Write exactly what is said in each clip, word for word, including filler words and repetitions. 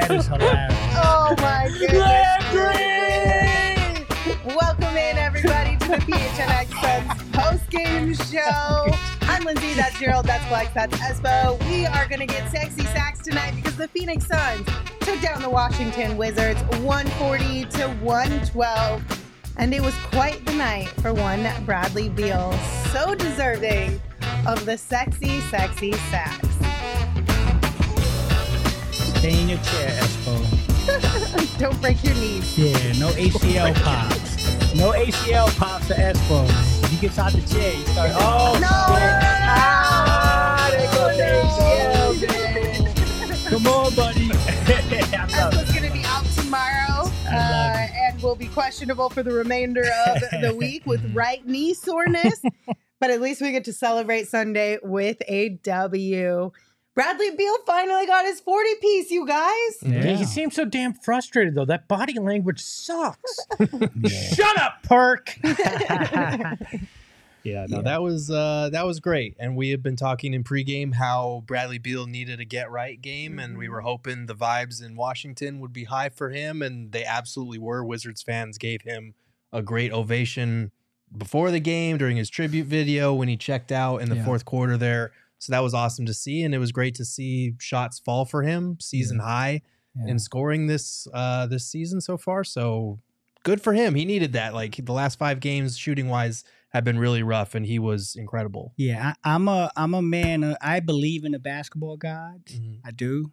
That is hilarious. Oh my goodness. Landry! Welcome in, everybody, to the P H N X Suns post-game show. I'm Lindsay, that's Gerald, that's Flex, that's Espo. We are going to get sexy sacks tonight because the Phoenix Suns took down the Washington Wizards one forty to one twelve. And it was quite the night for one Bradley Beal. So deserving of the sexy, sexy sacks. Stay in your chair, Espo. Don't break your knees. Yeah, no A C L pops. No A C L pops for Espo. If he gets out the chair, you start, oh, No! shit. Ah, there goes Oh, the A C L. Come on, buddy. I'm That's up. what's going to be out tomorrow I love uh, and will be questionable for the remainder of the week with right knee soreness. But at least we get to celebrate Sunday with a W. Bradley Beal finally got his forty piece, you guys. Yeah. Yeah, he seems so damn frustrated, though. That body language sucks. Shut up, Perk. Yeah, no, Yeah. that was uh, that was great, and we had been talking in pregame how Bradley Beal needed a get right game, Mm-hmm. and we were hoping the vibes in Washington would be high for him, and they absolutely were. Wizards fans gave him a great ovation before the game, during his tribute video, when he checked out in the Yeah. fourth quarter there. So that was awesome to see, and it was great to see shots fall for him, season high Yeah. in scoring this uh, this season so far. So good for him. He needed that. Like the last five games, shooting wise, have been really rough, and he was incredible. Yeah, I, I'm a I'm a man. Uh, I believe in the basketball gods. Mhm. I do.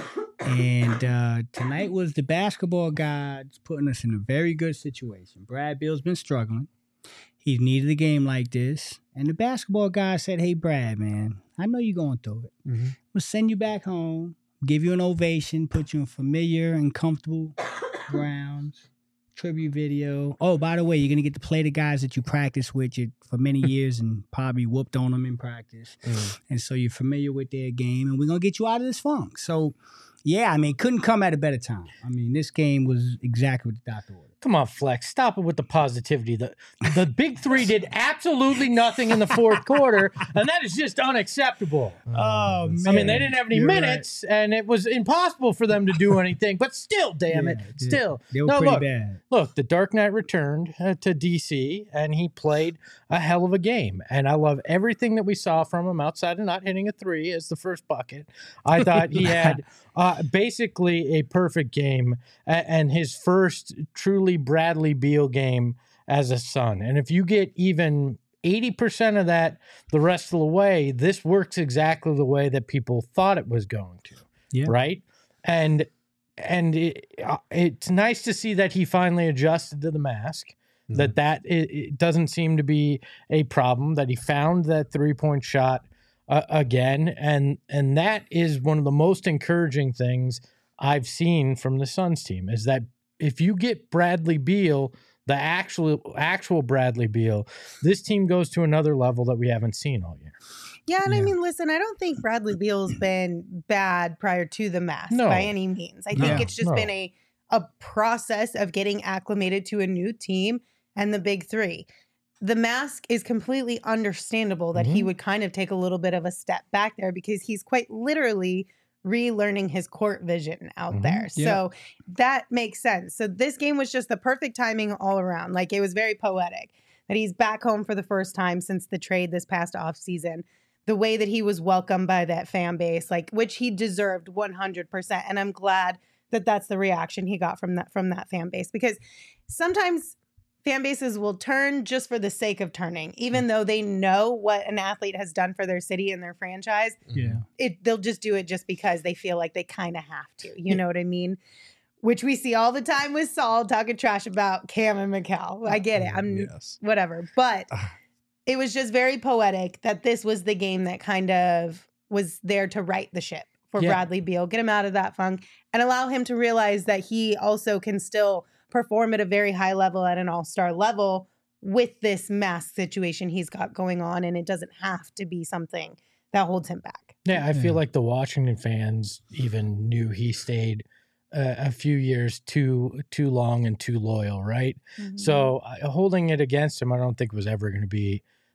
And uh, tonight was the basketball gods putting us in a very good situation. Brad Beal's been struggling. He needed a game like this, and the basketball guy said, "Hey, Brad, man, I know you're going through it. Mhm. We'll send you back home, give you an ovation, put you in familiar and comfortable grounds." Tribute video. Oh, by the way, you're gonna get to play the guys that you practiced with you for many years and probably whooped on them in practice, Mm. and so you're familiar with their game. And we're gonna get you out of this funk. So, yeah, I mean, couldn't come at a better time. I mean, this game was exactly what the doctor ordered. Come on, Flex. Stop it with the positivity. The, the big three did absolutely nothing in the fourth quarter, and that is just unacceptable. Oh man! I mean, they didn't have any You're minutes, and it was impossible for them to do anything. But still, damn it, Yeah, they- still. They were no, pretty look, bad. look, the Dark Knight returned uh, to D C, and he played a hell of a game. And I love everything that we saw from him outside of not hitting a three as the first bucket. I thought he had uh, basically a perfect game a- and his first truly Bradley Beal game as a Sun. And if you get even eighty percent of that the rest of the way, this works exactly the way that people thought it was going to. Yeah. Right? And and it, uh, it's nice to see that he finally adjusted to the mask. Mhm. That that it, it doesn't seem to be a problem. That he found that three point shot uh, again, and and that is one of the most encouraging things I've seen from the Suns team. Is that if you get Bradley Beal, the actual actual Bradley Beal, this team goes to another level that we haven't seen all year. Yeah, and I Yeah. mean, listen, I don't think Bradley Beal's been bad prior to the mask No. by any means. I think No, it's just no. been a a process of getting acclimated to a new team and the big three. The mask is completely understandable that he Mhm. would kind of take a little bit of a step back there because he's quite literally relearning his court vision out Mhm. there. Yeah. So that makes sense. So this game was just the perfect timing all around. Like it was very poetic that he's back home for the first time since the trade this past offseason. The way that he was welcomed by that fan base, like which he deserved one hundred percent. And I'm glad that that's the reaction he got from that from that fan base because sometimes fan bases will turn just for the sake of turning, even though they know what an athlete has done for their city and their franchise. Yeah. It they'll just do it just because they feel like they kind of have to. You know what I mean? Which we see all the time with Saul talking trash about Cam and Mikal. I get it. I'm yes. whatever, but it was just very poetic that this was the game that kind of was there to right the ship for Yeah. Bradley Beal, get him out of that funk, and allow him to realize that he also can still perform at a very high level at an all-star level with this mask situation he's got going on, and it doesn't have to be something that holds him back. Yeah, I feel Yeah. like the Washington fans even knew he stayed uh, a few years too too long and too loyal, right? So uh, holding it against him, I don't think was ever going to be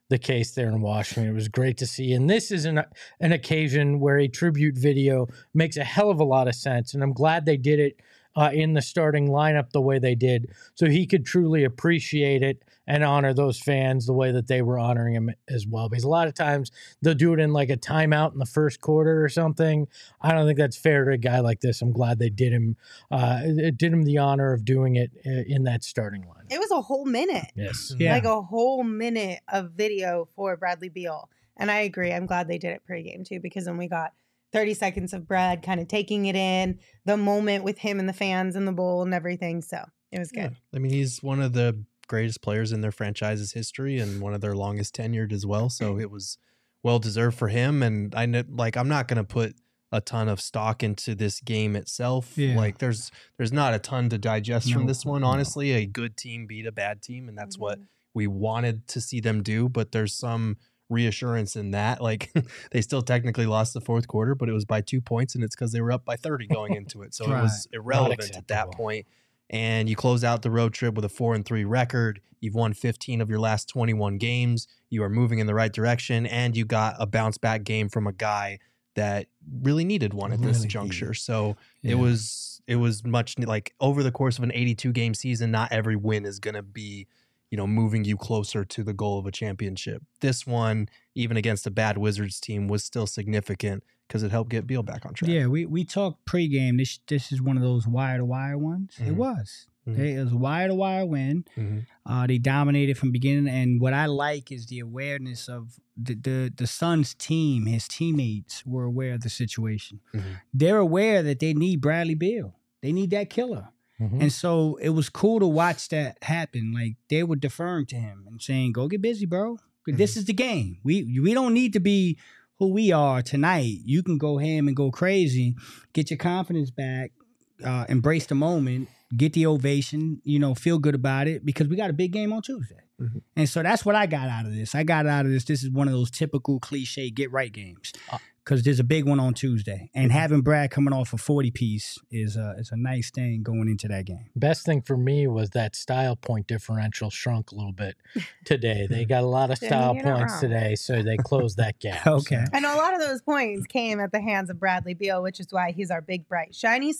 the case there in Washington. It was great to see. And this is an, an occasion where a tribute video makes a hell of a lot of sense. And I'm glad they did it uh, in the starting lineup the way they did, so he could truly appreciate it and honor those fans the way that they were honoring him as well. Because a lot of times they'll do it in like a timeout in the first quarter or something. I don't think that's fair to a guy like this. I'm glad they did him, uh, it did him the honor of doing it in that starting line. It was a whole minute. Yes. Yeah. Like a whole minute of video for Bradley Beal. And I agree. I'm glad they did it pregame too, because then we got thirty seconds of Brad kind of taking it in, the moment with him and the fans in the bowl and everything. So it was good. Yeah. I mean, he's one of the greatest players in their franchise's history and one of their longest tenured as well. So it was well deserved for him. And I know, like, I'm not going to put a ton of stock into this game itself. Yeah. Like there's, there's not a ton to digest No, from this one. no. Honestly, a good team beat a bad team. And that's Mhm. what we wanted to see them do. But there's some reassurance in that. Like they still technically lost the fourth quarter, but it was by two points and it's because they were up by thirty going into it. So Right. it was irrelevant at that acceptable. point. And you close out the road trip with a four and three record. You've won fifteen of your last twenty-one games. You are moving in the right direction, and you got a bounce back game from a guy that really needed one at this Really juncture. needed. So Yeah. it was it was much like over the course of an eighty-two game season. Not every win is going to be, you know, moving you closer to the goal of a championship. This one, even against a bad Wizards team, was still significant because it helped get Beal back on track. Yeah, we, we talked pregame. This this is one of those wire to wire ones. It Mhm. was. Mhm. They, it was a wire to wire win. Mhm. Uh, they dominated from beginning. And what I like is the awareness of the the the Suns team. His teammates were aware of the situation. Mhm. They're aware that they need Bradley Beal. They need that killer. Mhm. And so it was cool to watch that happen. Like they were deferring to him and saying, "Go get busy, bro. This is the game. We we don't need to be who we are tonight. You can go ham and go crazy, get your confidence back, uh, embrace the moment, get the ovation. You know, feel good about it because we got a big game on Tuesday." Mhm. And so that's what I got out of this. I got out of this. This is one of those typical cliche get right games Uh, because there's a big one on Tuesday, and having Brad coming off a forty piece is a is a nice thing going into that game. Best thing for me was that style point differential shrunk a little bit today. They got a lot of Yeah, style you're not points wrong. today, so they closed that gap. Okay. And a lot of those points came at the hands of Bradley Beal, which is why he's our big, bright, shiny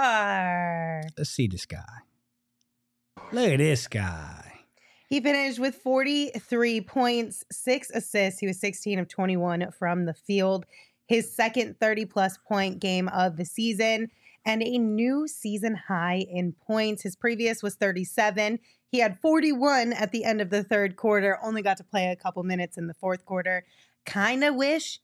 star. Let's see this guy. Look at this guy. He finished with forty-three points, six assists. He was sixteen of twenty-one from the field. His second thirty-plus point game of the season and a new season high in points. His previous was thirty-seven. He had forty-one at the end of the third quarter, only got to play a couple minutes in the fourth quarter. Kind of wish,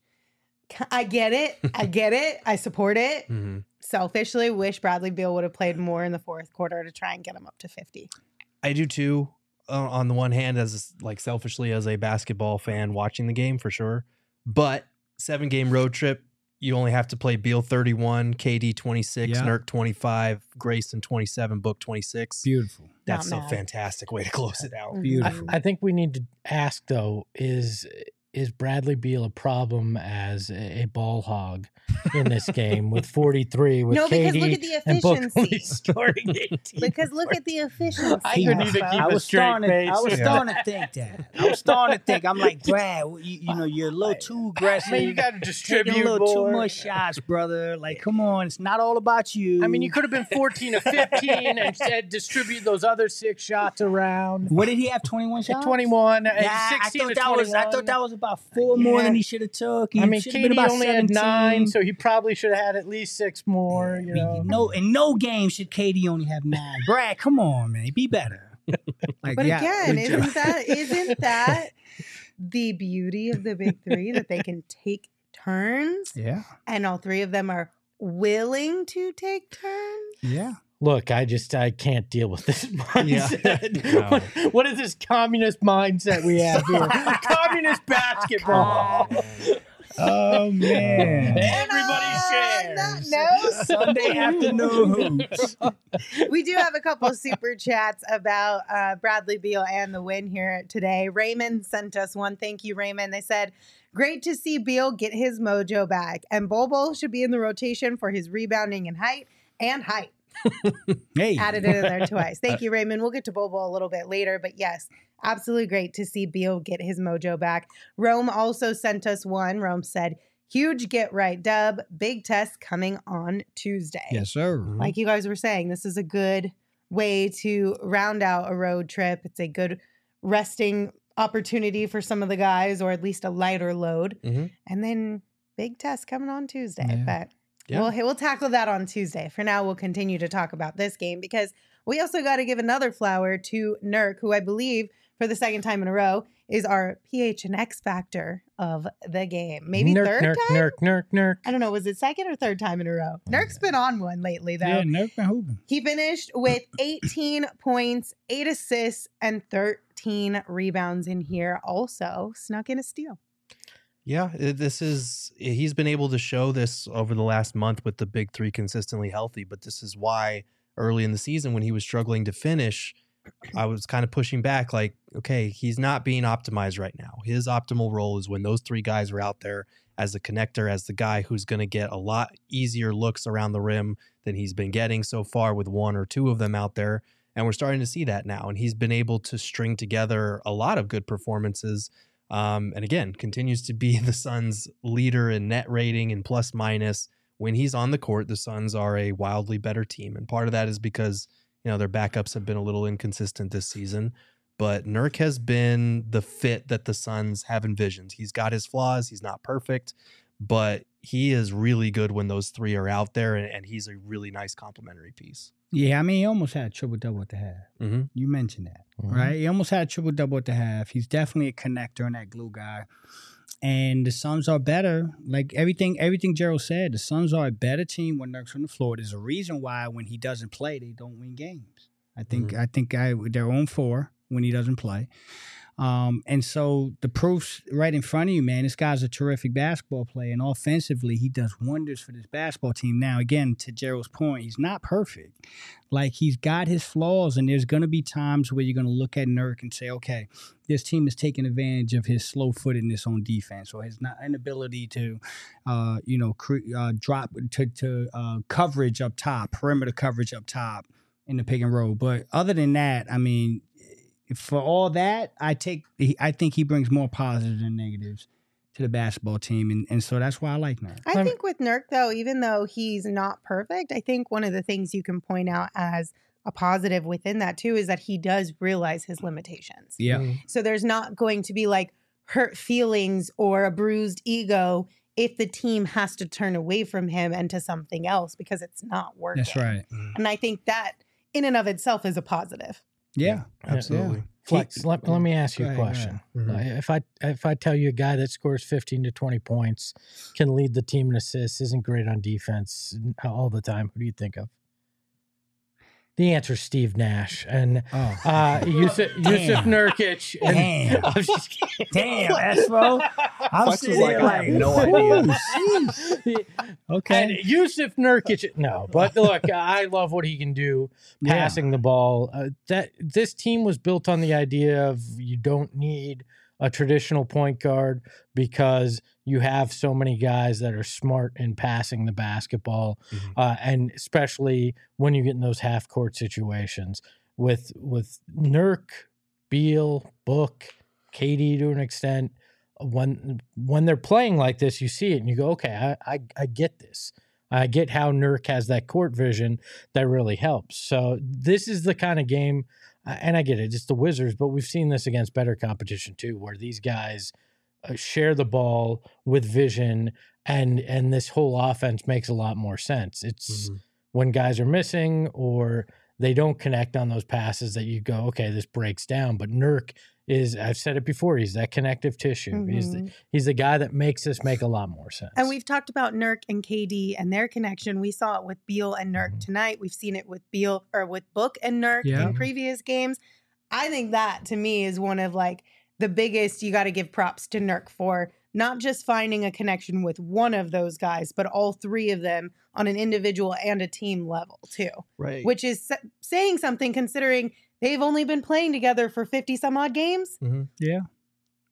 I get it, I get it, I support it. Mhm. Selfishly, wish Bradley Beal would have played more in the fourth quarter to try and get him up to fifty. I do too. Uh, on the one hand, as like selfishly as a basketball fan watching the game for sure, but seven game road trip, you only have to play Beal thirty-one, K D twenty-six, Yeah. Nurk twenty-five, Grayson twenty-seven, Book twenty-six. Beautiful. That's Not a mad. fantastic way to close it out. Mhm. Beautiful. I think we need to ask though: is is Bradley Beal a problem as a, a ball hog in this game with forty-three with No, because look K D at the and Book only efficiency. scoring eighteen? Because look at the efficiency. I couldn't even Expo. keep I a was straight starting. To, I face. was Yeah. starting to think that. I was starting to think. I'm like, Brad, you, you know, you're a little too aggressive. I mean, you got to taking distribute a little more. too much shots, brother. Like, come on, it's not all about you. I mean, you could have been fourteen to fifteen and said distribute those other six shots around. What did he have? twenty-one shots. twenty-one, Yeah, and I sixteen thought to that twenty-one. was. I thought that was about four more Yeah. than he should have took. He I mean, should K have D been about only seventeen. had nine, so he probably should have had at least six more. You know, no, in no game should K D only have nine. Brad, come on, man, be better. Like, But yeah, again, good job. isn't that isn't that the beauty of the big three that they can take turns Yeah, and all three of them are willing to take turns? yeah. look, I just I can't deal with this mindset. No. what, what is this communist mindset we have here? Communist basketball. Oh man. Everybody And on shares. that note, Sunday afternoon hoops. we do have a couple super chats about uh, Bradley Beal and the win here today. Raymond sent us one. Thank you, Raymond. They said, Great to see Beal get his mojo back. And Bol Bol should be in the rotation for his rebounding and height and height. Hey. Added it in there twice. Thank you, Raymond. We'll get to Bol Bol a little bit later. But yes, absolutely great to see Beal get his mojo back. Rome also sent us one. Rome said, huge get right dub. Big test coming on Tuesday. Yes, sir. Like you guys were saying, this is a good way to round out a road trip. It's a good resting opportunity for some of the guys, or at least a lighter load. Mm-hmm. And then big test coming on Tuesday. Yeah. But Yeah. we'll, we'll tackle that on Tuesday. For now, we'll continue to talk about this game because we also got to give another flower to Nurk, who I believe for the second time in a row is our P H and X factor of the game. Maybe Nurk, third nurk, time? Nurk, nurk, nurk. I don't know. Was it second or third time in a row? Nurk's been on one lately, though. Yeah, Nurk been hooping. He finished with eighteen points, eight assists, and thirteen rebounds in here. Also snuck in a steal. Yeah, it- this is he's been able to show this over the last month with the big three consistently healthy, but this is why early in the season when he was struggling to finish, I was kind of pushing back like, okay, he's not being optimized right now. His optimal role is when those three guys are out there as a connector, as the guy who's going to get a lot easier looks around the rim than he's been getting so far with one or two of them out there. And we're starting to see that now. And he's been able to string together a lot of good performances. Um, and again, continues to be the Suns' leader in net rating and plus minus. When he's on the court, the Suns are a wildly better team. And part of that is because, you know, their backups have been a little inconsistent this season. But Nurk has been the fit that the Suns have envisioned. He's got his flaws. He's not perfect, but he is really good when those three are out there. And, and he's a really nice complementary piece. Yeah, I mean, he almost had a triple-double at the half. Mm-hmm. You mentioned that, Mhm. right? He almost had a triple-double at the half. He's definitely a connector and that glue guy. And the Suns are better. Like everything everything Gerald said, the Suns are a better team when Nurk's on the floor. There's a reason why when he doesn't play, they don't win games. I think I think I, they're on four when he doesn't play. Um, and so the proof's right in front of you, man. This guy's a terrific basketball player, and offensively, he does wonders for this basketball team. Now, again, to Gerald's point, he's not perfect. Like, he's got his flaws, and there's going to be times where you're going to look at Nurk and say, okay, this team is taking advantage of his slow-footedness on defense or his not inability to, uh, you know, cre- uh, drop to, to uh, coverage up top, perimeter coverage up top in the pick and roll. But other than that, I mean, for all that, I take. I think he brings more positives than negatives to the basketball team, and, and so that's why I like Nurk. I I'm- think with Nurk, though, even though he's not perfect, I think one of the things you can point out as a positive within that, too, is that he does realize his limitations. Yeah, Mm-hmm. So there's not going to be like hurt feelings or a bruised ego if the team has to turn away from him and to something else because it's not working. that's right. And I think that in and of itself is a positive. Yeah, Absolutely. Yeah. Flex, let, let me ask you Go a ahead, go question. Mhm. Uh, If I if I tell you a guy that scores fifteen to twenty points, can lead the team in assists, isn't great on defense all the time, who do you think of? The answer is Steve Nash and Oh, uh, Yusuf, Yusuf Damn. Nurkic. And, Damn. I'm just kidding. damn, Espo. I'm Flex was sitting like, there I have like, no "Ooh, idea." sheesh." And Okay, Yusuf Nurkic, no, but look, I love what he can do Yeah. passing the ball. Uh, that this team was built on the idea of you don't need a traditional point guard because you have so many guys that are smart in passing the basketball, Mhm. uh, and especially when you get in those half court situations with with Nurk, Beal, Book, K D to an extent. When when they're playing like this, you see it and you go, okay, I I, I get this. I get how Nurk has that court vision that really helps. So this is the kind of game, uh, and I get it, it's the Wizards, but we've seen this against better competition too, where these guys uh, share the ball with vision, and and this whole offense makes a lot more sense. It's Mhm. when guys are missing or they don't connect on those passes that you go, okay, this breaks down. But Nurk is, I've said it before, he's that connective tissue. He's the, Mhm. he's the guy that makes this make a lot more sense. And we've talked about Nurk and K D and their connection. We saw it with Beal and Nurk Mhm. tonight. We've seen it with Beal or with Book and Nurk Yeah. in previous games. I think that to me is one of like the biggest you got to give props to Nurk for not just finding a connection with one of those guys, but all three of them on an individual and a team level too, Right. which is sa- saying something considering they've only been playing together for fifty some odd games. Mhm. yeah.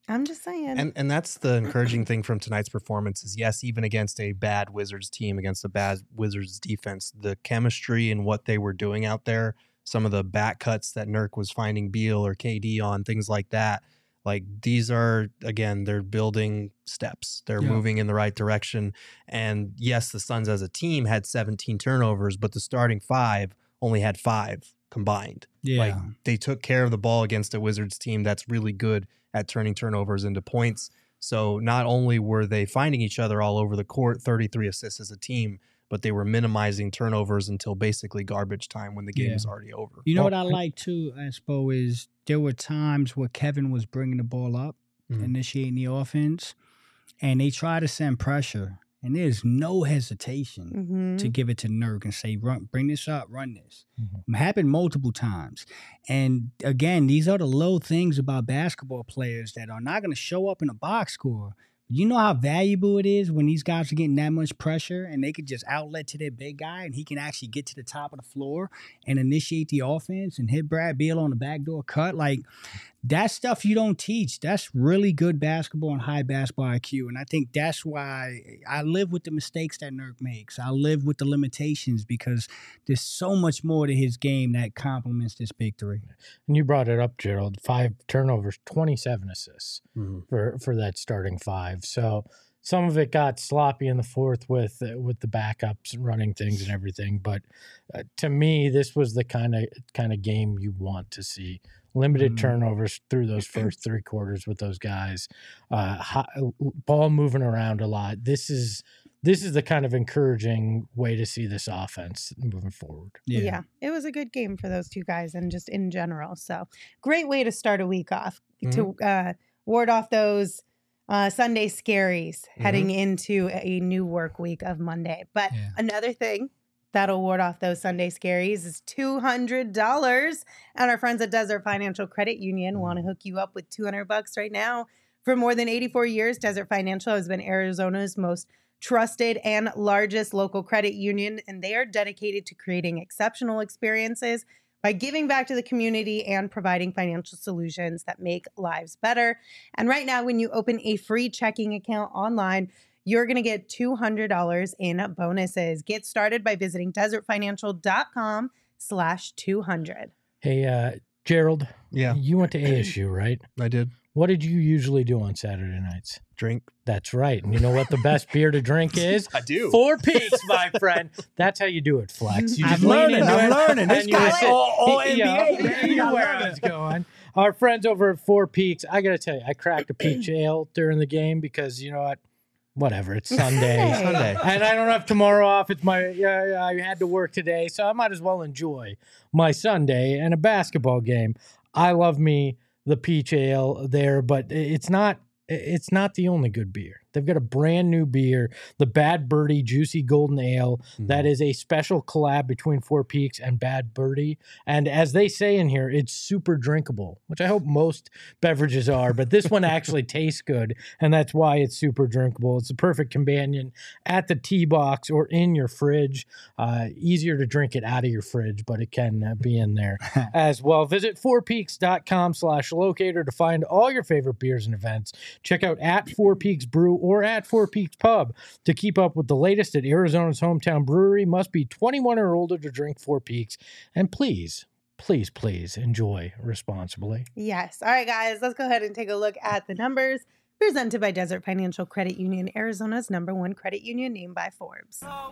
I'm just saying. And and that's the encouraging thing from tonight's performance is, yes, even against a bad Wizards team, against a bad Wizards defense, the chemistry and what they were doing out there, some of the back cuts that Nurk was finding Beal or K D on, things like that, like these are, again, they're building steps. They're Yeah. moving in the right direction. And yes, the Suns as a team had seventeen turnovers, but the starting five only had five combined. Yeah. Like they took care of the ball against a Wizards team that's really good at turning turnovers into points. So not only were they finding each other all over the court, thirty-three assists as a team, but they were minimizing turnovers until basically garbage time when the game Yeah. was already over. You know Well, what I like too, Espo, is there were times where Kevin was bringing the ball up, Mhm. initiating the offense, and they try to send pressure, and there's no hesitation hmm to give it to Nurk and say, "Run, bring this up, run this." Mhm. It happened multiple times, and again, these are the little things about basketball players that are not going to show up in a box score. You know how valuable it is when these guys are getting that much pressure and they could just outlet to their big guy and he can actually get to the top of the floor and initiate the offense and hit Brad Beal on the backdoor cut. Like, that's stuff you don't teach. That's really good basketball and high basketball I Q. And I think that's why I live with the mistakes that Nurk makes. I live with the limitations because there's so much more to his game that complements this big three. And you brought it up, Gerald. Five turnovers, twenty-seven assists Mhm. for, for that starting five. So some of it got sloppy in the fourth with uh, with the backups running things and everything. But uh, to me, this was the kind of kind of game you want to see. Limited Mhm. turnovers through those first three quarters with those guys. Uh, high, ball moving around a lot. This is this is the kind of encouraging way to see this offense moving forward. Yeah. It was a good game for those two guys and just in general. So great way to start a week off to uh, ward off those uh, Sunday scaries heading into a new work week of Monday. But Yeah. another thing that'll ward off those Sunday scaries is two hundred dollars. And our friends at Desert Financial Credit Union want to hook you up with two hundred bucks right now. For more than eighty-four years, Desert Financial has been Arizona's most trusted and largest local credit union, and they are dedicated to creating exceptional experiences by giving back to the community and providing financial solutions that make lives better. And right now, when you open a free checking account online, you're going to get two hundred dollars in bonuses. Get started by visiting desertfinancial.com slash 200. Hey, uh, Gerald, Yeah, you went to A S U, right? I did. What did you usually do on Saturday nights? Drink. That's right. And you know what the best beer to drink is? I do. Four Peaks, my friend. That's how you do it, Flex. You I'm just lean learning. into I'm it, learning. This and you guy's say- all, all Yeah, N B A. man. you know I'm where I learning. was going. Our friends over at Four Peaks, I got to tell you, I cracked a peach ale during the game because, you know what? Whatever. It's Sunday. Sunday. Sunday. And I don't have tomorrow off. It's my, uh, I had to work today, so I might as well enjoy my Sunday and a basketball game. I love me the peach ale there, but it's not, it's not the only good beer. They've got a brand new beer, the Bad Birdie Juicy Golden Ale. That is a special collab between Four Peaks and Bad Birdie. And as they say in here, it's super drinkable, which I hope most beverages are, but this one actually tastes good. And that's why it's super drinkable. It's the perfect companion at the tea box or in your fridge. Uh, easier to drink it out of your fridge, but it can uh, be in there as well. Visit fourpeaks.com slash locator to find all your favorite beers and events. Check out at Four Peaks Brew or at Four Peaks Pub to keep up with the latest at Arizona's hometown brewery. Must be twenty-one or older to drink Four Peaks. And please, please, please enjoy responsibly. Yes. All right, guys, let's go ahead and take a look at the numbers presented by Desert Financial Credit Union, Arizona's number one credit union, named by Forbes. All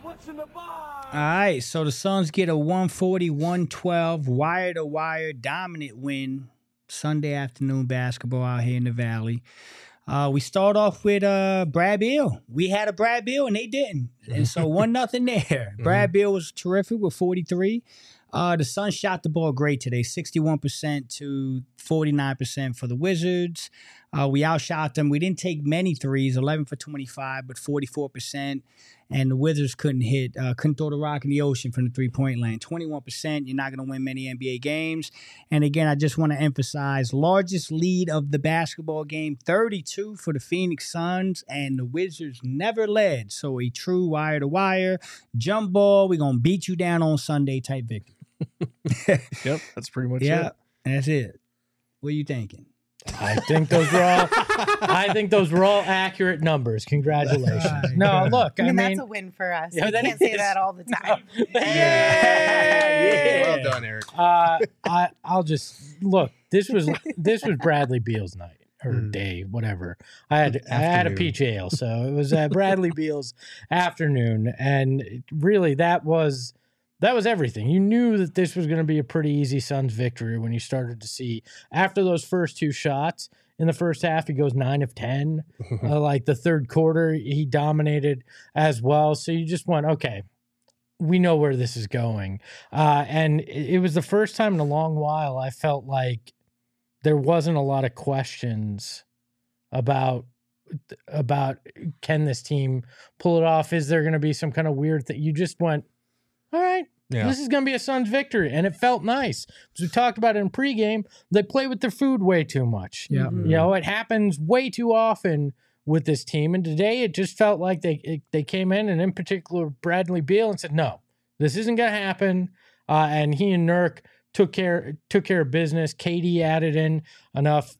right, so the Suns get a one forty, one twelve wire-to-wire dominant win Sunday afternoon basketball out here in the Valley. Uh, we start off with uh, Brad Beal. We had a Brad Beal, and they didn't. And so one nothing there. Brad Beal was terrific with forty-three. Uh, the Suns shot the ball great today, sixty-one percent to forty-nine percent for the Wizards. Uh, we outshot them. We didn't take many threes, eleven for twenty-five, but forty-four percent. And the Wizards couldn't hit, uh, couldn't throw the rock in the ocean from the three-point line. twenty-one percent, you're not going to win many N B A games. And again, I just want to emphasize, largest lead of the basketball game, thirty-two for the Phoenix Suns, and the Wizards never led. So a true wire-to-wire, jump ball, we're going to beat you down on Sunday type victory. Yep, that's pretty much Yeah, it. and that's it. What are you thinking? I think those were all. I think those were all accurate numbers. Congratulations. No, look, I mean, I mean, that's a win for us. Yeah, We that can't say is. that all the time. yeah. Well done, Eric. Uh, I I'll just look. This was this was Bradley Beal's night or Mm. day, whatever. I had I had a Afternoon. peach ale, so it was uh, Bradley Beal's afternoon, and really that was that was everything. You knew that this was going to be a pretty easy Suns victory when you started to see after those first two shots. In the first half, he goes nine of ten. uh, like the third quarter, he dominated as well. So you just went, okay, we know where this is going. Uh, and it, it was the first time in a long while I felt like there wasn't a lot of questions about about can this team pull it off? Is there going to be some kind of weird thing? You just went, all right. Yeah. This is going to be a Suns victory, and it felt nice. As we talked about it in pregame, they play with their food way too much. Yeah. You know, it happens way too often with this team, and today it just felt like they it, they came in, and in particular Bradley Beal, and said, "No, this isn't going to happen." Uh, and he and Nurk took care took care of business. K D added in enough.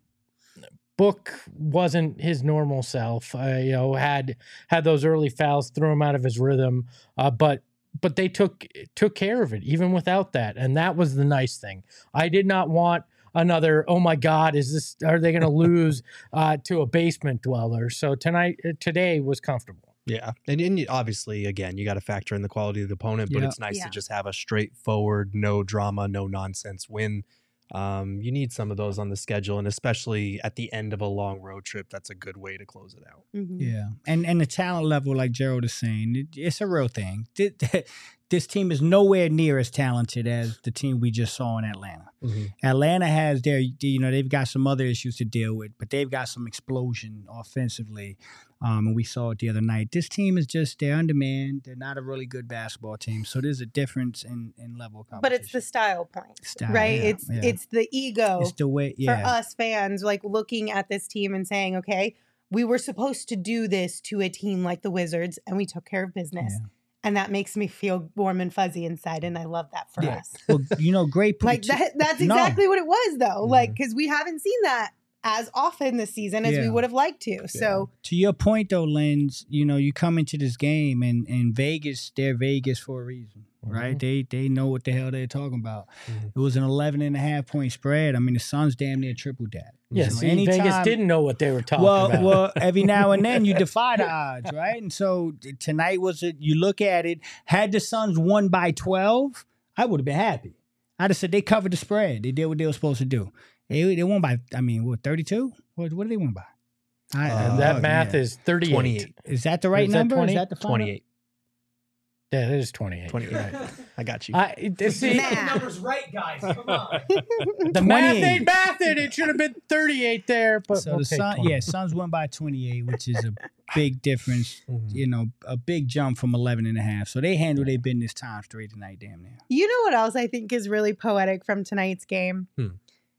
Book wasn't his normal self. Uh, you know, had had those early fouls, threw him out of his rhythm, uh, but. But they took took care of it even without that, and that was the nice thing. I did not want another. Oh my God, is this? Are they going to lose uh, to a basement dweller? So tonight, uh, today was comfortable. Yeah. And, and you- obviously, again, you got to factor in the quality of the opponent, but Yeah. it's nice Yeah. to just have a straightforward, no drama, no nonsense win. Um, you need some of those on the schedule, and especially at the end of a long road trip, that's a good way to close it out. Mhm. Yeah, and and the talent level, like Gerald is saying, it, it's a real thing. This, this team is nowhere near as talented as the team we just saw in Atlanta. Atlanta has their, you know, they've got some other issues to deal with, but they've got some explosion offensively. Um, and we saw it the other night. This team is just, they're undermanned. They're not a really good basketball team. So there's a difference in, in level of competition. But it's the style point, Style, right? yeah, it's yeah. it's the ego It's the way, for yeah. us fans, like looking at this team and saying, okay, we were supposed to do this to a team like the Wizards, and we took care of business. Yeah. And that makes me feel warm and fuzzy inside, and I love that for Yeah. us. Well, you know, great. Like point- that, that's No. exactly what it was, though. Mhm. Like, because we haven't seen that as often this season as we Yeah. would have liked to. So, To your point, though, Lens, you know, you come into this game and, and Vegas, they're Vegas for a reason, right? Mhm. They they know what the hell they're talking about. Mhm. It was an eleven and a half point spread. I mean, the Suns damn near tripled that. Yeah, So see, anytime- Vegas didn't know what they were talking well, about. well, every now and then you defy the odds, right? And so t- tonight was it. You look at it. Had the Suns won by twelve, I would have been happy. I'd have said they covered the spread. They did what they were supposed to do. They they won by. I mean, what thirty-two? What what did they win by? I, Uh, I- that oh, math yeah. is thirty-eight. twenty-eight. Is that the right Is that number? twenty? Is that the final? twenty-eight. Yeah, it is twenty-eight. twenty-eight. Right. I got you. I, it- see, Math. numbers right, guys. Come on. the math twenty-eight. ain't mathing. It should have been thirty-eight there. But So okay, the Sun, twenty. yeah, Suns won by twenty-eight, which is a big difference. Mhm. You know, a big jump from eleven and a half. So they handled their business time straight tonight, damn near. you know what else I think is really poetic from tonight's game? Hmm.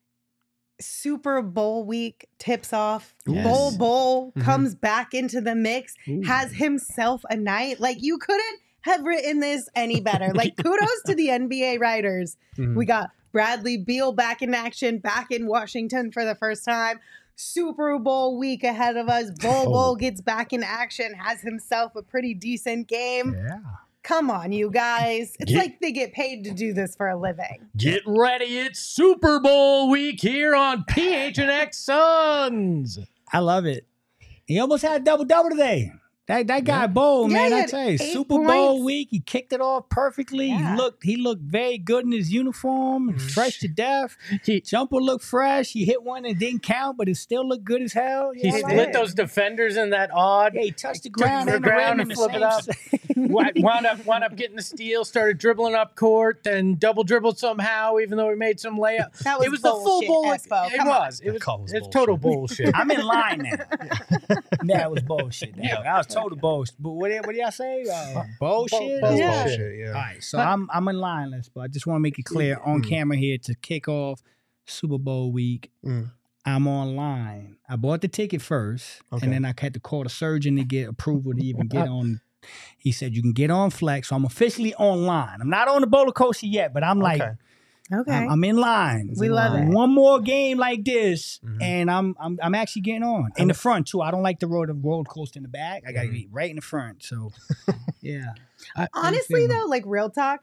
Super Bowl week tips off. Yes. Bowl Bowl Mhm. comes back into the mix, has himself a night. Like, you couldn't have written this any better. Like, kudos to the N B A writers. Mhm. We got Bradley Beal back in action, back in Washington for the first time. Super Bowl week ahead of us. Bowl Oh. Bowl gets back in action, has himself a pretty decent game. Yeah. Come on, you guys. It's Get- like they get paid to do this for a living. Get ready, it's Super Bowl week here on P H N X Suns. I love it. He almost had a double double today. That that guy bold, Yeah, man. he I had tell you, eight Super Bowl points. week. He kicked it off perfectly. Yeah. He looked he looked very good in his uniform, Mhm. fresh to death. He, Jumper looked fresh. He hit one and didn't count, but it still looked good as hell. he Yeah, I He like split it. those defenders in that odd. Yeah, he touched the ground the and the ground rim and in the flip it same up. Wound wound up, wound up getting the steal, started dribbling up court, then double dribbled somehow, even though he made some layup. That was, It was the full bullshit, bowl. Espo. It Come on. was. It That was. call was It's total bullshit. bullshit. I'm in line now. That was bullshit. Now. Yeah. I was total bullshit. But what, did- what did y'all say? Uh, bullshit? bull- Yeah. Bullshit, yeah. All right, so I'm I'm in line, let's but I just want to make it clear on Mm. camera here to kick off Super Bowl week. Mm. I'm online. I bought the ticket first, Okay. and then I had to call the surgeon to get approval to even get on. He said you can get on Flex, so I'm officially online. I'm not on the roller coaster yet, but I'm like Okay. Okay. I'm, I'm in line. We love it. One more game like this, Mhm. and I'm I'm I'm actually getting on in the front too. I don't like the road roller coaster in the back. I got to Mhm. be right in the front. So, yeah. Honestly, feeling? though, like real talk,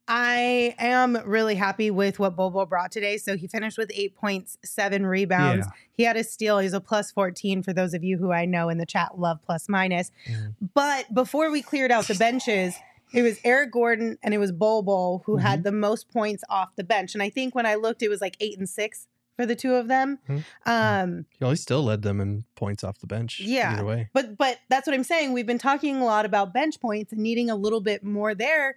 I am really happy with what Bobo brought today. So he finished with eight point seven rebounds. Yeah. He had a steal. He's a plus fourteen for those of you who I know in the chat love plus minus. Mhm. But before we cleared out the benches, it was Eric Gordon and it was Bobo who had the most points off the bench. And I think when I looked, it was like eight and six for the two of them. Mhm. Um, He always still led them in points off the bench. Yeah. Either way. But but that's what I'm saying. We've been talking a lot about bench points and needing a little bit more there.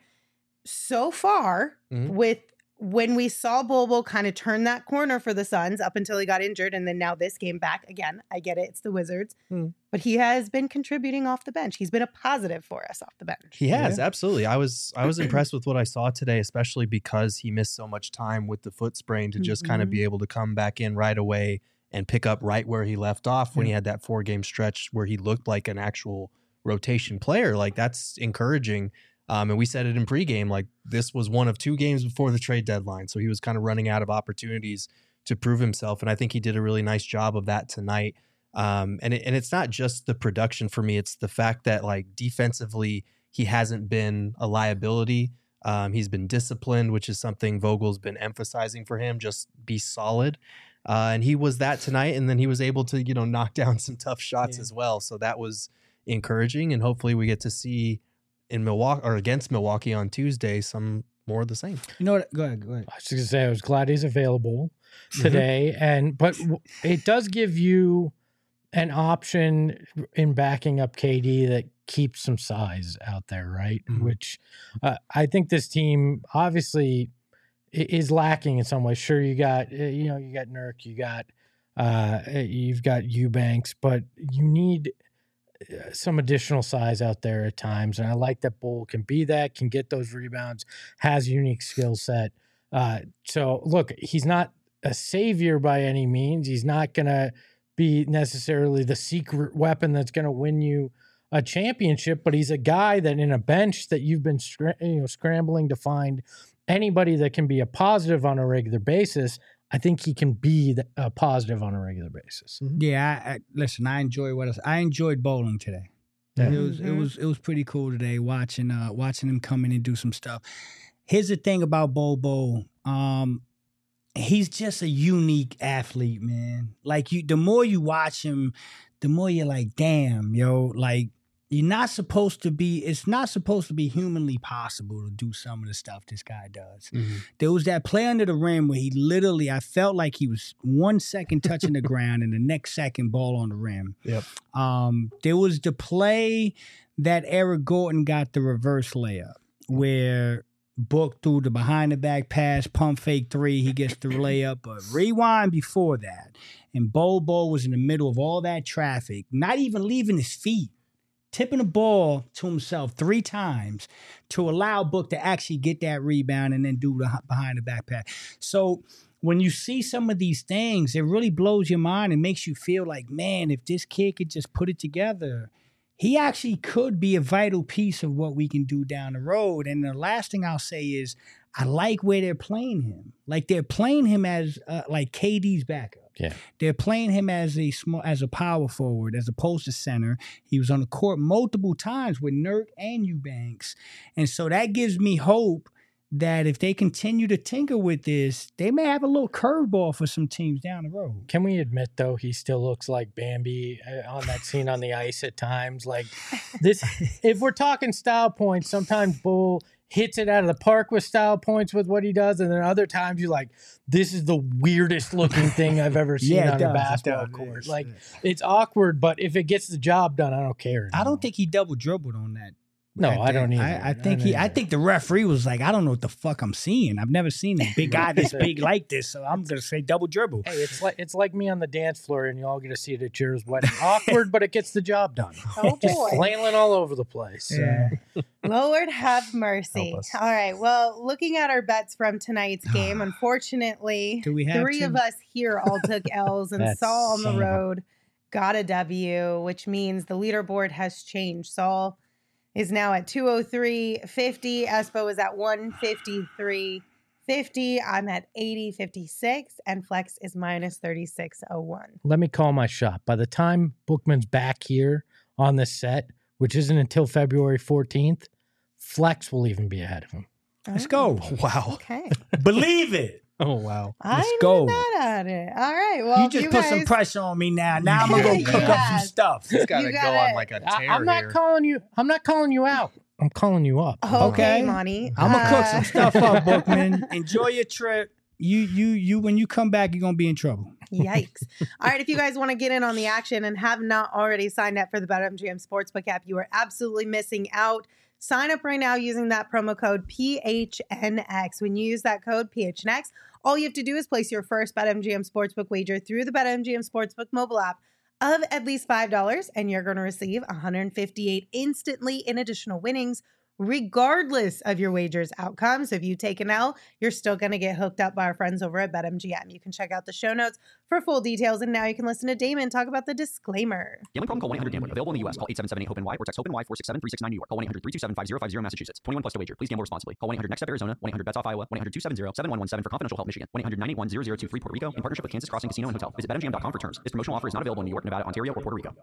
So far, Mhm. with when we saw Bobo kind of turn that corner for the Suns up until he got injured, and then now this game back again. I get it, it's the Wizards, Mhm. but he has been contributing off the bench. He's been a positive for us off the bench. He has, Yeah. absolutely. I was I was impressed with what I saw today, especially because he missed so much time with the foot sprain to just kind of Mhm. be able to come back in right away and pick up right where he left off when he had that four game stretch where he looked like an actual rotation player. Like that's encouraging. Um, and we said it in pregame, like this was one of two games before the trade deadline. So he was kind of running out of opportunities to prove himself. And I think he did a really nice job of that tonight. Um, and, it, and it's not just the production for me. It's the fact that like defensively, he hasn't been a liability. Um, he's been disciplined, which is something Vogel's been emphasizing for him. Just be solid. Uh, and he was that tonight. And then he was able to, you know, knock down some tough shots Yeah. as well. So that was encouraging. And hopefully we get to see in Milwaukee or against Milwaukee on Tuesday some more of the same. You know what? Go ahead. Go ahead. I was just gonna say I was glad he's available Mhm. today, and but w- it does give you an option in backing up K D that keeps some size out there, right? Mhm. Which uh, I think this team obviously i- is lacking in some ways. Sure, you got uh, you know you got Nurk, you got uh, you've got Eubanks, but you need uh, some additional size out there at times. And I like that Bull can be that, can get those rebounds, has a unique skill set. Uh, so look, he's not a savior by any means. He's not going to be necessarily the secret weapon that's going to win you a championship, but he's a guy that in a bench that you've been scr- you know, scrambling to find anybody that can be a positive on a regular basis. I think he can be the, a positive on a regular basis. Yeah, I, I, listen. I enjoy what I, I enjoyed bowling today. Yeah. It was it Mhm. was it was pretty cool today watching uh watching him come in and do some stuff. Here's the thing about Bobo. Um, he's just a unique athlete, man. Like you, the more you watch him, the more you're like, damn, yo, like you're not supposed to be. It's not supposed to be humanly possible to do some of the stuff this guy does. There was that play under the rim where he literally, I felt like he was one second touching the ground and the next second ball on the rim. Yep. Um, there was the play that Eric Gordon got the reverse layup where Book threw the behind the back pass, pump fake three. He gets the layup, but rewind before that. And Bobo was in the middle of all that traffic, not even leaving his feet, tipping the ball to himself three times to allow Book to actually get that rebound and then do the behind the back pass. So when you see some of these things, it really blows your mind and makes you feel like, man, if this kid could just put it together, he actually could be a vital piece of what we can do down the road. And the last thing I'll say is I like where they're playing him. Like they're playing him as uh, like K D's backup. Yeah. They're playing him as a small, as a power forward, as opposed to center. He was on the court multiple times with Nurk and Eubanks. And so that gives me hope that if they continue to tinker with this, they may have a little curveball for some teams down the road. Can we admit, though, he still looks like Bambi uh, on that scene on the ice at times? Like this, if we're talking style points, sometimes Bull hits it out of the park with style points with what he does, and then other times you're like, this is the weirdest looking thing I've ever seen Yeah, it on does, a it basketball does, court. yes, Like yes. it's awkward, but if it gets the job done, I don't care. I anymore. don't think he double dribbled on that. No, that I don't day. either. I, I I think don't he. I either. think the referee was like, I don't know what the fuck I'm seeing. I've never seen a big guy this big like this, so I'm gonna say double dribble. Hey, it's like it's like me on the dance floor, and you all get to see it at Cheers wedding. Awkward, but it gets the job done. Oh, Just boy. flailing all over the place. So. Yeah. Lord have mercy. Help us. All right. Well, looking at our bets from tonight's game, unfortunately, Do we have three to? of us here all took L's and That's Saul on son the of a- road got a W, which means the leaderboard has changed. Saul is now at two oh three fifty. Espo is at one fifty-three fifty. I'm at eighty fifty-six, and Flex is minus thirty-six oh one. Let me call my shot. By the time Bookman's back here on this set, which isn't until February fourteenth, Flex will even be ahead of him. Let's go. Wow. Okay. Believe it. Oh, wow. I Let's go. knew that at it. All right. Well, you just you put guys, some pressure on me now. Now I'm gonna go You cook up some got- stuff. He's got to You go got on it. like a I, tear I'm not here. calling you. I'm not calling you out. I'm calling you up. Okay, Okay. Monty. I'm gonna cook Uh, some stuff up, Bookman. Enjoy your trip. You, you, you. When you come back, you're gonna be in trouble. Yikes. All right. If you guys want to get in on the action and have not already signed up for the BetMGM Sportsbook app, you are absolutely missing out. Sign up right now using that promo code P H N X. When you use that code P H N X, all you have to do is place your first BetMGM Sportsbook wager through the BetMGM Sportsbook mobile app of at least five dollars, and you're going to receive one hundred fifty-eight instantly in additional winnings, regardless of your wager's outcome. So if you take an L, you're still going to get hooked up by our friends over at BetMGM. You can check out the show notes for full details. And now you can listen to Damon talk about the disclaimer. Gambling problem? Call one eight hundred gambler. Available in the U S. Call eight seven seven eight hope N Y or text HOPE-NY four six seven three six nine New York. Call one eight hundred three two seven five zero five zero Massachusetts. twenty-one plus to wager. Please gamble responsibly. Call one eight hundred next step Arizona. one eight hundred bets off Iowa. one eight hundred two seven zero seven one one seven for confidential help Michigan. one eight hundred nine eight one zero zero two three Puerto Rico in partnership with Kansas Crossing Casino and Hotel. Visit bet M G M dot com for terms. This promotional offer is not available in New York, Nevada, Ontario, or Puerto Rico.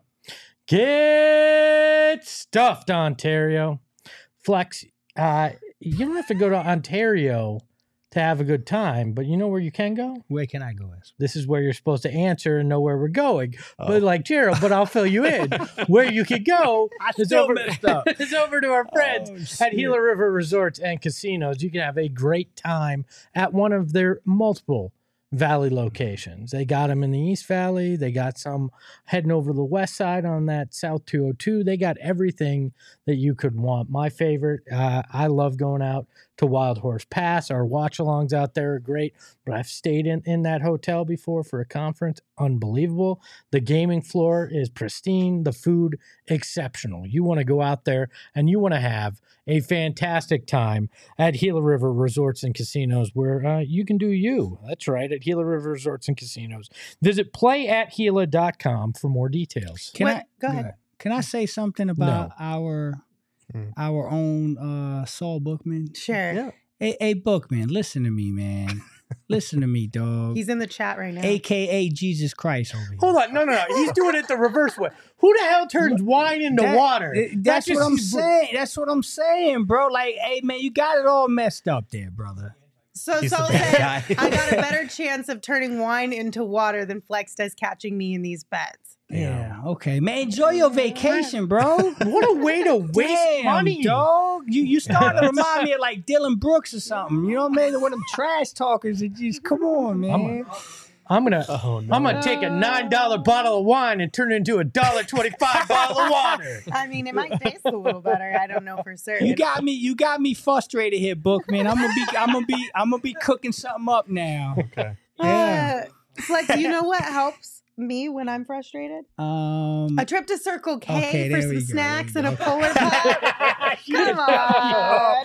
Get stuffed, Ontario. Flex, uh, you don't have to go to Ontario to have a good time, but you know where you can go? Where can I go? As? This is where you're supposed to answer and know where we're going. Oh. But like Gerald, but I'll fill you in. Where you could go I is still over, messed up. is over to our friends Oh, at shit. Gila River Resorts and Casinos. You can have a great time at one of their multiple Valley locations. They got them in the East Valley. They got some heading over the west side on that South two oh two. They got everything that you could want. My favorite, uh, I love going out to Wild Horse Pass. Our watch-alongs out there are great, but I've stayed in, in that hotel before for a conference. Unbelievable. The gaming floor is pristine. The food, exceptional. You want to go out there and you want to have a fantastic time at Gila River Resorts and Casinos where uh, you can do you. That's right, at Gila River Resorts and Casinos. Visit play at gila dot com for more details. Can What- I go ahead. Can I say something about No. our Mm. our own uh, Saul Bookman? Sure. Yeah. Hey, hey, Bookman, listen to me, man. Listen to me, dog. He's in the chat right now. A K A Jesus Christ over here. Hold on, no, no, no. He's doing it the reverse way. Who the hell turns wine into That- water? th- That's That what I'm just- saying. That's what I'm saying, bro. Like, hey, man, you got it all messed up there, brother. So He's the Saul bad said, guy. I got a better chance of turning wine into water than Flex does catching me in these bets. Yeah. Okay, man. Enjoy your vacation, bro. What a way to waste Damn, money. dog. You you starting to remind me of like Dylan Brooks or something. You know what I mean? One of them trash talkers that just come on, man. I'm gonna, Oh, no. I'm gonna take a nine dollar bottle of wine and turn it into a dollar twenty-five bottle of water. I mean, it might taste a little better. I don't know for certain. You got me. You got me frustrated here, Bookman. I'm gonna be. I'm gonna be. I'm gonna be cooking something up now. Okay. Yeah. Uh, Flex, you know what helps me when I'm frustrated? Um. A trip to Circle K Okay, for there some we go, snacks there and we a go. polar pop. Come on.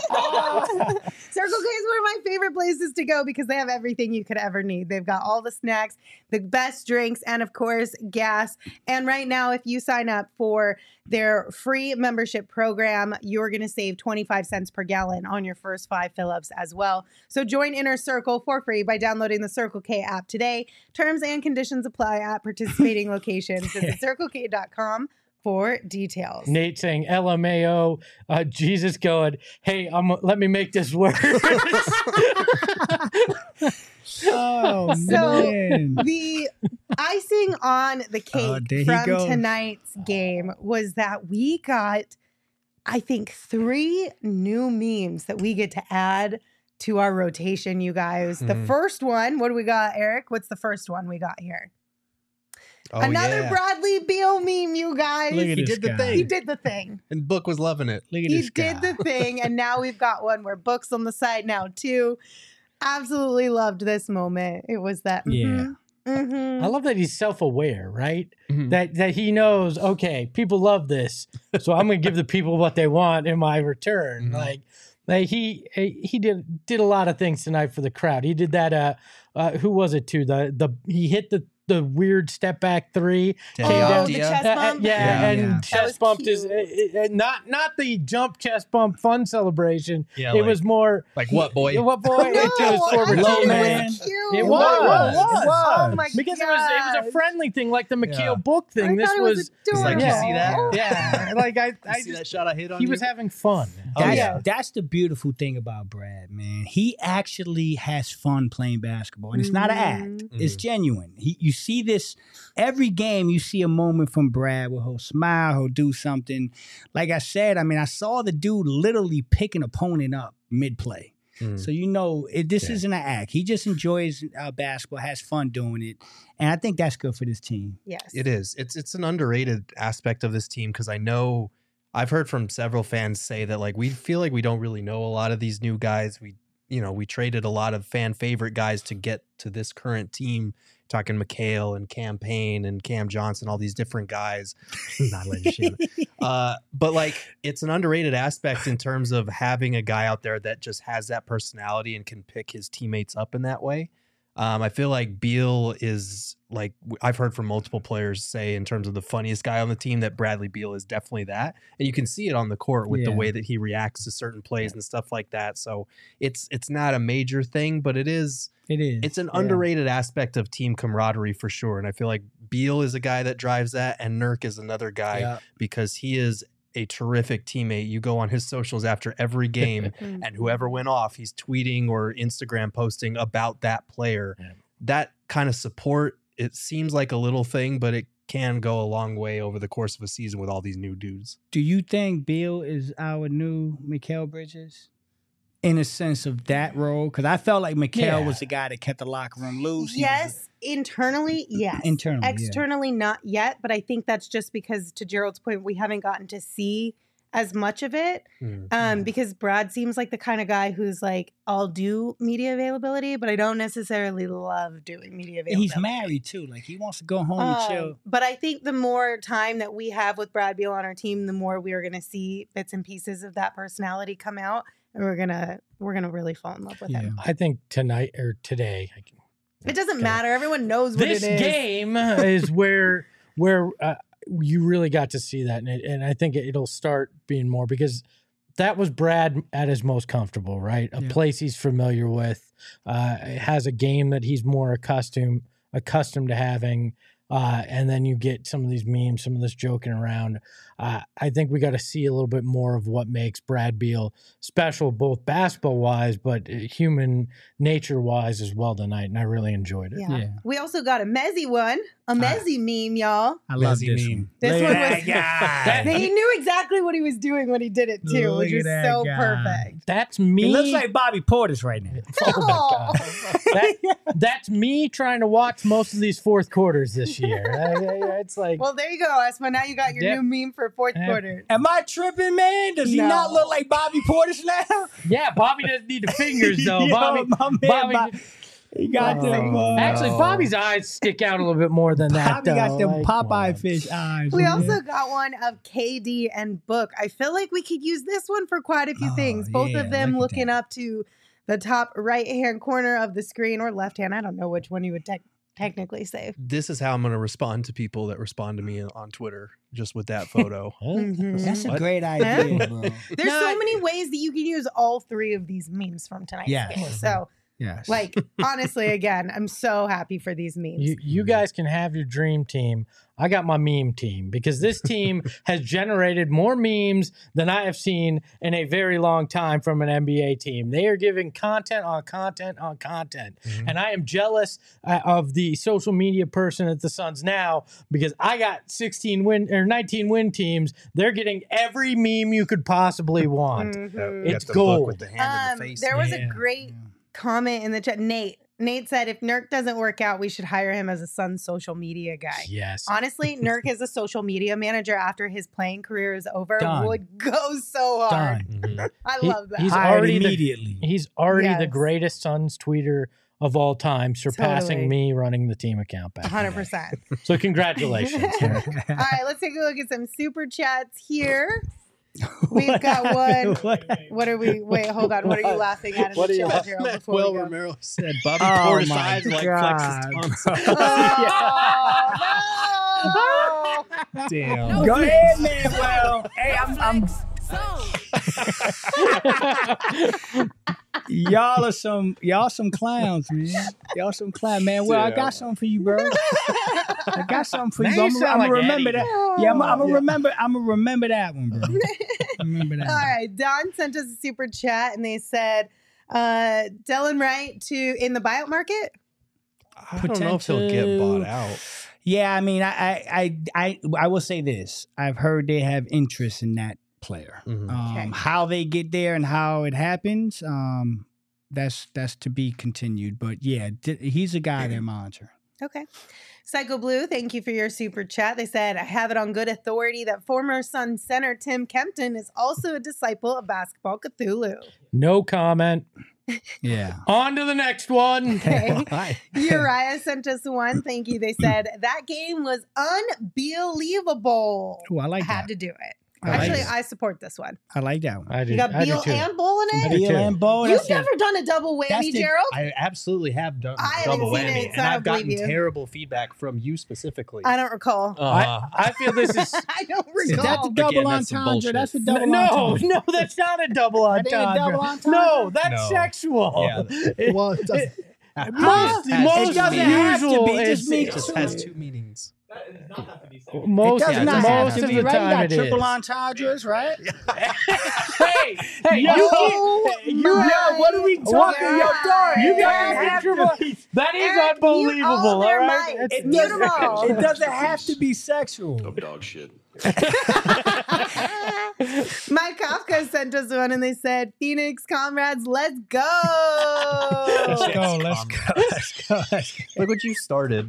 Circle K is one of my favorite places to go because they have everything you could ever need. They've got all the snacks, the best drinks, and of course, gas. And right now, if you sign up for their free membership program, you're going to save twenty-five cents per gallon on your first five fill-ups as well. So join Inner Circle for free by downloading the Circle K app today. Terms and conditions apply at participating locations. Visit circle k dot com for details. Nate saying L M A O, uh, Jesus going, hey, I'm, let me make this work. Oh So- man. The icing on the Oh, cake there he from goes. tonight's game was that we got, I think, three new memes that we get to add to our rotation, you guys. The Mhm. first one, what do we got, Eric? What's the first one we got here? Oh, Another yeah. Bradley Beal meme, you guys. Look at He this did the guy. thing. He did the thing. And Book was loving it. Look at He this guy. did the thing, and now we've got one where Book's on the side now too. Absolutely loved this moment. It was that. Yeah. mhm, I mhm. love that he's self-aware, right? Mhm. That that he knows, okay, people love this, so I'm gonna give the people what they want in my return. Mhm. Like, like he he did did a lot of things tonight for the crowd. He did that. Uh, uh who was it too? The the he hit the the weird step back three. Yeah. came Oh, down- the Yeah. chest Uh, bump. uh, yeah, Yeah, and yeah. That chest was bumped is cute. uh, uh, not not the jump chest bump fun celebration. Yeah, it like- was more Like what, boy? What boy? No, It was I forward thought team. it man. was cute. It It was. was. It was. Oh my Because god! it was it was a friendly thing, like the McHale Yeah. book I thing. This thought it was, was adorable. like, you see that? yeah, like I, You I see just that shot I hit on he you? was having fun. Oh, That's, yeah. that's the beautiful thing about Brad, man. He actually has fun playing basketball, and it's not an act. Mhm. It's genuine. He, you see this every game. You see a moment from Brad where he'll smile, he'll do something. Like I said, I mean, I saw the dude literally pick an opponent up mid play. Mm. So you know, it, this Yeah. isn't an act. He just enjoys uh, basketball, has fun doing it, and I think that's good for this team. Yes, It is. It's it's an underrated aspect of this team because I know I've heard from several fans say that like we feel like we don't really know a lot of these new guys. We you know we traded a lot of fan favorite guys to get to this current team. Talking McHale and Cam Payne and Cam Johnson, all these different guys. Not letting shit. Uh, but like it's an underrated aspect in terms of having a guy out there that just has that personality and can pick his teammates up in that way. Um, I feel like Beal is like I've heard from multiple players say in terms of the funniest guy on the team that Bradley Beal is definitely that, and you can see it on the court with the Yeah. way that he reacts to certain plays and stuff like that. So it's it's not a major thing, but it is It is. it's an Yeah. underrated aspect of team camaraderie for sure. And I feel like Beal is a guy that drives that, and Nurk is another guy Yeah. because he is a terrific teammate. You go on his socials after every game, Mhm. and whoever went off, he's tweeting or Instagram posting about that player. Yeah. That kind of support, it seems like a little thing, but it can go a long way over the course of a season with all these new dudes. Do you think Beal is our new Mikal Bridges? In a sense of that role? Because I felt like Mikal Yeah. was the guy that kept the locker room loose. He was- Yes, internally, yes. Internally, yeah. Externally, not yet. But I think that's just because, to Gerald's point, we haven't gotten to see as much of it. Um, because Brad seems like the kind of guy who's like, I'll do media availability, but I don't necessarily love doing media And availability. he's married too. Like he wants to go home and Um, chill. But I think the more time that we have with Brad Beal on our team, the more we are going to see bits and pieces of that personality come out, and we're gonna we're gonna really fall in love with Yeah. him. I think tonight or today. I can, It doesn't Okay. matter. Everyone knows what This it is. game is where where uh, you really got to see that, and, it, and I think it'll start being more because that was Brad at his most comfortable, right? A Yeah. place he's familiar with, uh, has a game that he's more accustomed accustomed to having. Uh, and then you get some of these memes, some of this joking around. Uh, I think we got to see a little bit more of what makes Brad Beal special, both basketball wise, but uh, human nature wise as well tonight. And I really enjoyed it. Yeah. Yeah. We also got a Mezzy one, a Mezzy meme, y'all. I love Mezzy this meme. one. This Look one at was- that guy. He knew exactly what he was doing when he did it too, Look which at was that so guy. perfect. That's me. It looks like Bobby Portis right now. Oh my God. That, that's me trying to watch most of these fourth quarters this year. I- I- it's like, Well, there you go, Esma. Now you got your Yep. new meme for fourth Yep. quarter. Am I tripping, man? Does he No. not look like Bobby Portis now? yeah, Bobby doesn't need the fingers though. Yo, Bobby, my man, Bobby, Bob- he got Oh, them. Uh, actually, no. Bobby's eyes stick out a little bit more than that. Bobby got though. them Like, Popeye wow. fish eyes. We man. also got one of K D and Book. I feel like we could use this one for quite a few Oh, things. Both yeah, of them look at looking that. up to the top right hand corner of the screen or left hand. I don't know which one you would tech technically say. This is how I'm going to respond to people that respond to me on Twitter just with that photo. Huh? Mhm. That's a What? great idea, bro. There's No, so I- many ways that you can use all three of these memes from tonight's Yes. game. So, Yes. like, honestly, again, I'm so happy for these memes. You, you guys can have your dream team. I got my meme team because this team has generated more memes than I have seen in a very long time from an N B A team. They are giving content on content on content. Mhm. And I am jealous uh, of the social media person at the Suns now because I got sixteen win or nineteen win teams. They're getting every meme you could possibly want. Mhm. It's Got the book gold. with the hand in Um, the face. there was Yeah. a great comment in the chat. Nate. Nate said if Nurk doesn't work out, we should hire him as a Suns social media guy. Yes. Honestly, Nurk as a social media manager after his playing career is over Done. would go so hard. Done. Mhm. I He- love that. he's Hired already the- immediately. He's already the Yes. greatest Suns tweeter of all time, surpassing Totally. me running the team account back. in the one hundred day. percent. So congratulations. Nurk. All right, let's take a look at some super chats here. We've got one. What? What are we? Wait, hold on. What are you laughing at in What the are you chat, laughing Gerald? at? Before Well, we go? Romero said Bobby Oh poured his my eyes like flexes God. Oh, no! Damn. Go ahead, man. Well, hey, I'm, I'm y'all are some y'all some clowns, man. Y'all some clowns, man. Well, I got something for you, bro. I got something for Now you. you I'm, sound I'm like gonna remember Eddie. that. Yeah, I'm, I'm gonna Yeah. remember. I'm gonna remember that one, bro. Remember that. All one. right. Don sent us a super chat and they said, uh, Dylan Wright to in the buyout market. I don't know if he'll get bought out. Yeah, I mean, I, I, I, I, I will say this. I've heard they have interest in that player. Mhm. Um, Okay. How they get there and how it happens, um, that's that's to be continued. But yeah, d- he's a guy they're monitoring. Okay. Psycho Blue, thank you for your super chat. They said, I have it on good authority that former Sun center Tim Kempton is also a disciple of Basketball Cthulhu. No comment. Yeah. On to the next one. Okay. Why? Uriah sent us one. Thank you. They said, that game was unbelievable. Oh, I like I had that. to do it. I like Actually, it. I support this one. I like that one. I do. You got I do Beal too. and Bull in I it? do Beal too. and Bo. You've that's a- never done a double that's whammy, the- Gerald? I absolutely have done I haven't double seen whammy, it, so and I don't I've gotten believe you. terrible feedback from you specifically. I don't recall. Uh, I, I feel this is I don't Is recall. that the double Again, that's some entendre? bullshit. That's a double no, entendre. no, that's not a double That ain't a entendre. double entendre? No, that's No. sexual. yeah. It- Well, it does, it- it most, has- most it doesn't usual have to be, it is- just means- it just has two meanings. most, it does yeah, not doesn't have most to of be, the right? You time got it triple is. entendres, right? hey, hey, Yo, you can't, you, my Yo, what are we talking? Yo, God. Dora, you it guys doesn't have have triple. to be- That is Eric, mute all unbelievable. All their right, mics. It's- It Mute doesn't, them all. it doesn't have to be sexual. Dog shit. Mike Kafka sent us one and they said, Phoenix comrades, let's go. Let's go, let's go, let's go, let's go. Look what you started.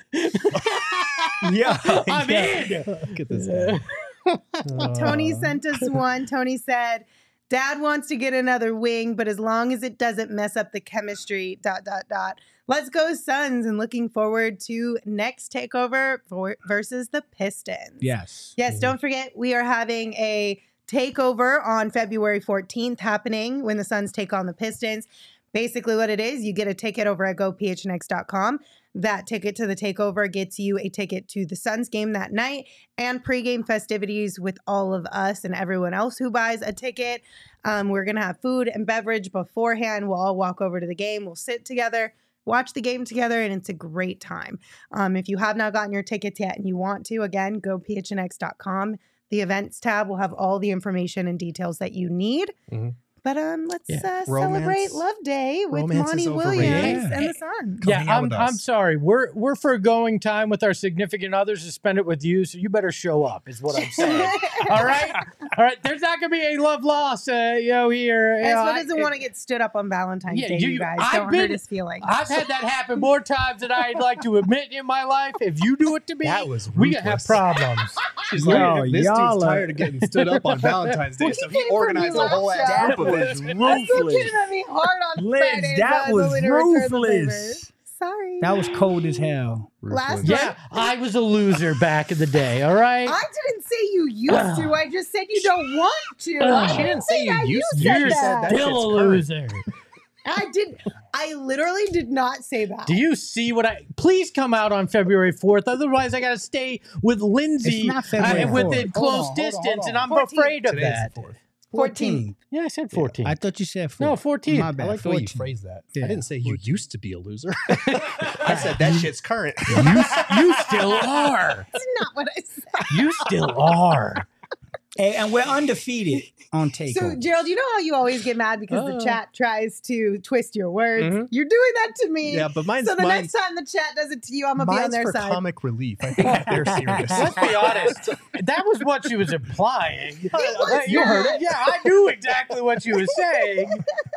Yeah, I'm in. Look at this guy. Tony sent us one. Tony said, Dad wants to get another wing, but as long as it doesn't mess up the chemistry, dot, dot, dot. Let's go Suns, and looking forward to next takeover for, versus the Pistons. Yes. Yes, don't forget, we are having a takeover on February fourteenth happening when the Suns take on the Pistons. Basically what it is, you get a ticket over at go p h n x dot com. That ticket to the takeover gets you a ticket to the Suns game that night and pregame festivities with all of us and everyone else who buys a ticket. Um, we're going to have food and beverage beforehand. We'll all walk over to the game. We'll sit together, watch the game together, and it's a great time. Um, if you have not gotten your tickets yet and you want to, again, go p h n x dot com. The events tab will have all the information and details that you need. Mhm. But um, let's Yeah. uh, Romance- celebrate Love Day with romance is Monty overrated. Williams Yeah. and the Suns. Come hang Yeah, out I'm, with I'm us. sorry. We're we're foregoing time with our significant others to spend it with you, so you better show up. Is what I'm saying. All right, all right. There's not gonna be a love loss, uh, you know, here. You know, Espo I- doesn't want to get stood up on Valentine's Yeah, Day, you- you guys. I've Don't been- hurt his feelings. I've had that happen more times than I'd like to admit in my life. If you do it to me, That was we gonna have ruthless. problems. She's Yo, like, this y'all dude's are- tired of getting stood up on Valentine's Day, Well, so he he came from organized New a whole Lancashire. ass That group of was us. I'm still ruthless. kidding at me hard on Liz, Fridays. that I was only to return the ruthless. favors. Sorry. That was cold as hell. Last Yeah, I was a loser back in the day. All right. I didn't say you used to. I just said you don't want to. I She didn't say you that. You used to. said You that. said that. Still a shit's current. loser. I did. I literally did not say that. Do you see what I? Please come out on February fourth. Otherwise, I got to stay with Lindsay It's not February uh, within fourth. close Hold on, hold on, distance, hold on. and I'm fourteenth. afraid of Today's that. the fourth. fourteen. Yeah, I said fourteen. I thought you said no, four. fourteen. My I bad. like the way you fourteen. phrased that. Yeah. I didn't say you used to be a loser. I said that shit's current. You, you still are. That's not what I said. You still are. Hey, and we're undefeated on takeover. So, Gerald, you know how you always get mad because Uh. the chat tries to twist your words? Mhm. You're doing that to me. Yeah, but mine's so the mine's, next time the chat does it to you, I'm going to be on mine's their for side. comic relief. I think they're serious. Let's be honest. That was what she was implying. was you heard not. it. Yeah, I knew exactly what she was saying.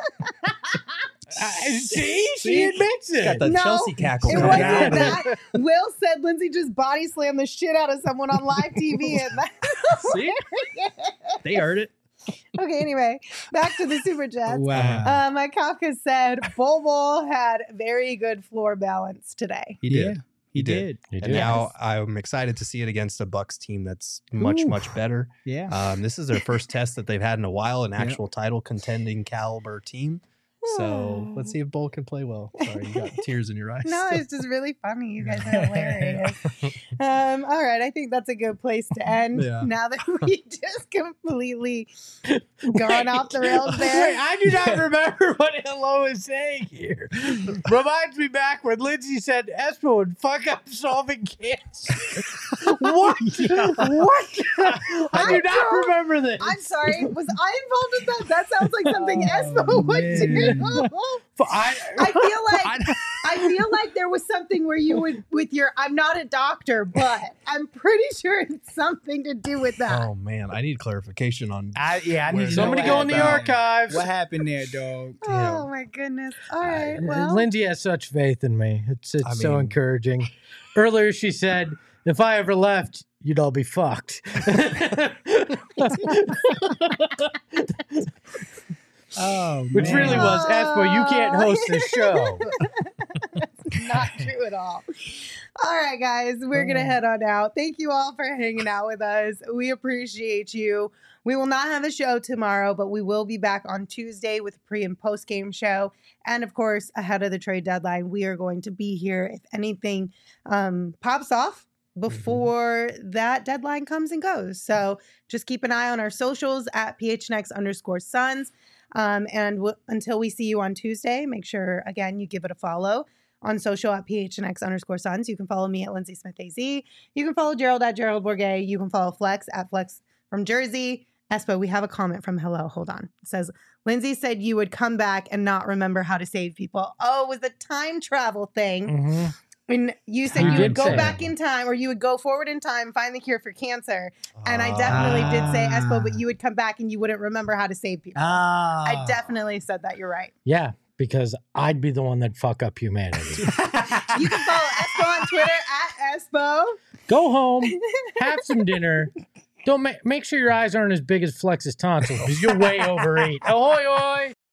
Uh, see, she admits Got it. the No, Chelsea cackle. It going wasn't on. that. Will said Lindsay just body slammed the shit out of someone on live T V. And that- See? They heard it. okay, anyway, back to the super chats. Wow. Uh, my Kafka said Bol Bol had very good floor balance today. He yeah, did. He did. He And did. now I'm excited to see it against a Bucks team that's much, Ooh. much better. Yeah. Um, this is their first test that they've had in a while, an Yep. actual title contending caliber team. So let's see if Bull can play well. Sorry, you got tears in your eyes. No, it's just really funny. You guys are hilarious. um, all right, I think that's a good place to end. Yeah. Now that we just completely gone off the rails Wait, there. I do not remember what Hello is saying here. Reminds me back when Lindsay said Espo would fuck up solving cancer. What? What? I do not remember this. I'm sorry. Was I involved in that? That sounds like something Oh, Espo would man. do. I, I feel like I feel like there was something where you would with your I'm not a doctor, but I'm pretty sure it's something to do with that. Oh man, I need clarification on. I, yeah, I need Where- to know Somebody what go in the happened. archives. What happened there, dog? Oh my goodness. All right. Well, Lindsay has such faith in me. It's it's I so mean- encouraging. Earlier she said, if I ever left, you'd all be fucked. Oh, Which man. really was, Espo, you can't host the show. not true at all. All right, guys, we're going to head on out. Thank you all for hanging out with us. We appreciate you. We will not have a show tomorrow, but we will be back on Tuesday with a pre and post game show. And of course, ahead of the trade deadline, we are going to be here if anything um, pops off before mm-hmm. that deadline comes and goes. So just keep an eye on our socials at P H N X underscore Suns. Um, and w- until we see you on Tuesday, make sure, again, you give it a follow on social at P H N X underscore Suns. You can follow me at Lindsay Smith A Z. You can follow Gerald at Gerald Bourget. You can follow Flex at Flex from Jersey. Espo, we have a comment from Hello. Hold on. It says, Lindsay said you would come back and not remember how to save people. Oh, it was a time travel thing. Mm-hmm. And you said You you did would go say back that. in time, or you would go forward in time, find the cure for cancer. And I definitely did say, Espo, but you would come back and you wouldn't remember how to save people. Ah. I definitely said that. You're right. Yeah, because I'd be the one that fuck up humanity. You can follow Espo on Twitter at Espo. Go home, have some dinner. Don't make make sure your eyes aren't as big as Flex's tonsils because you're way overeat. Ahoy, hoy!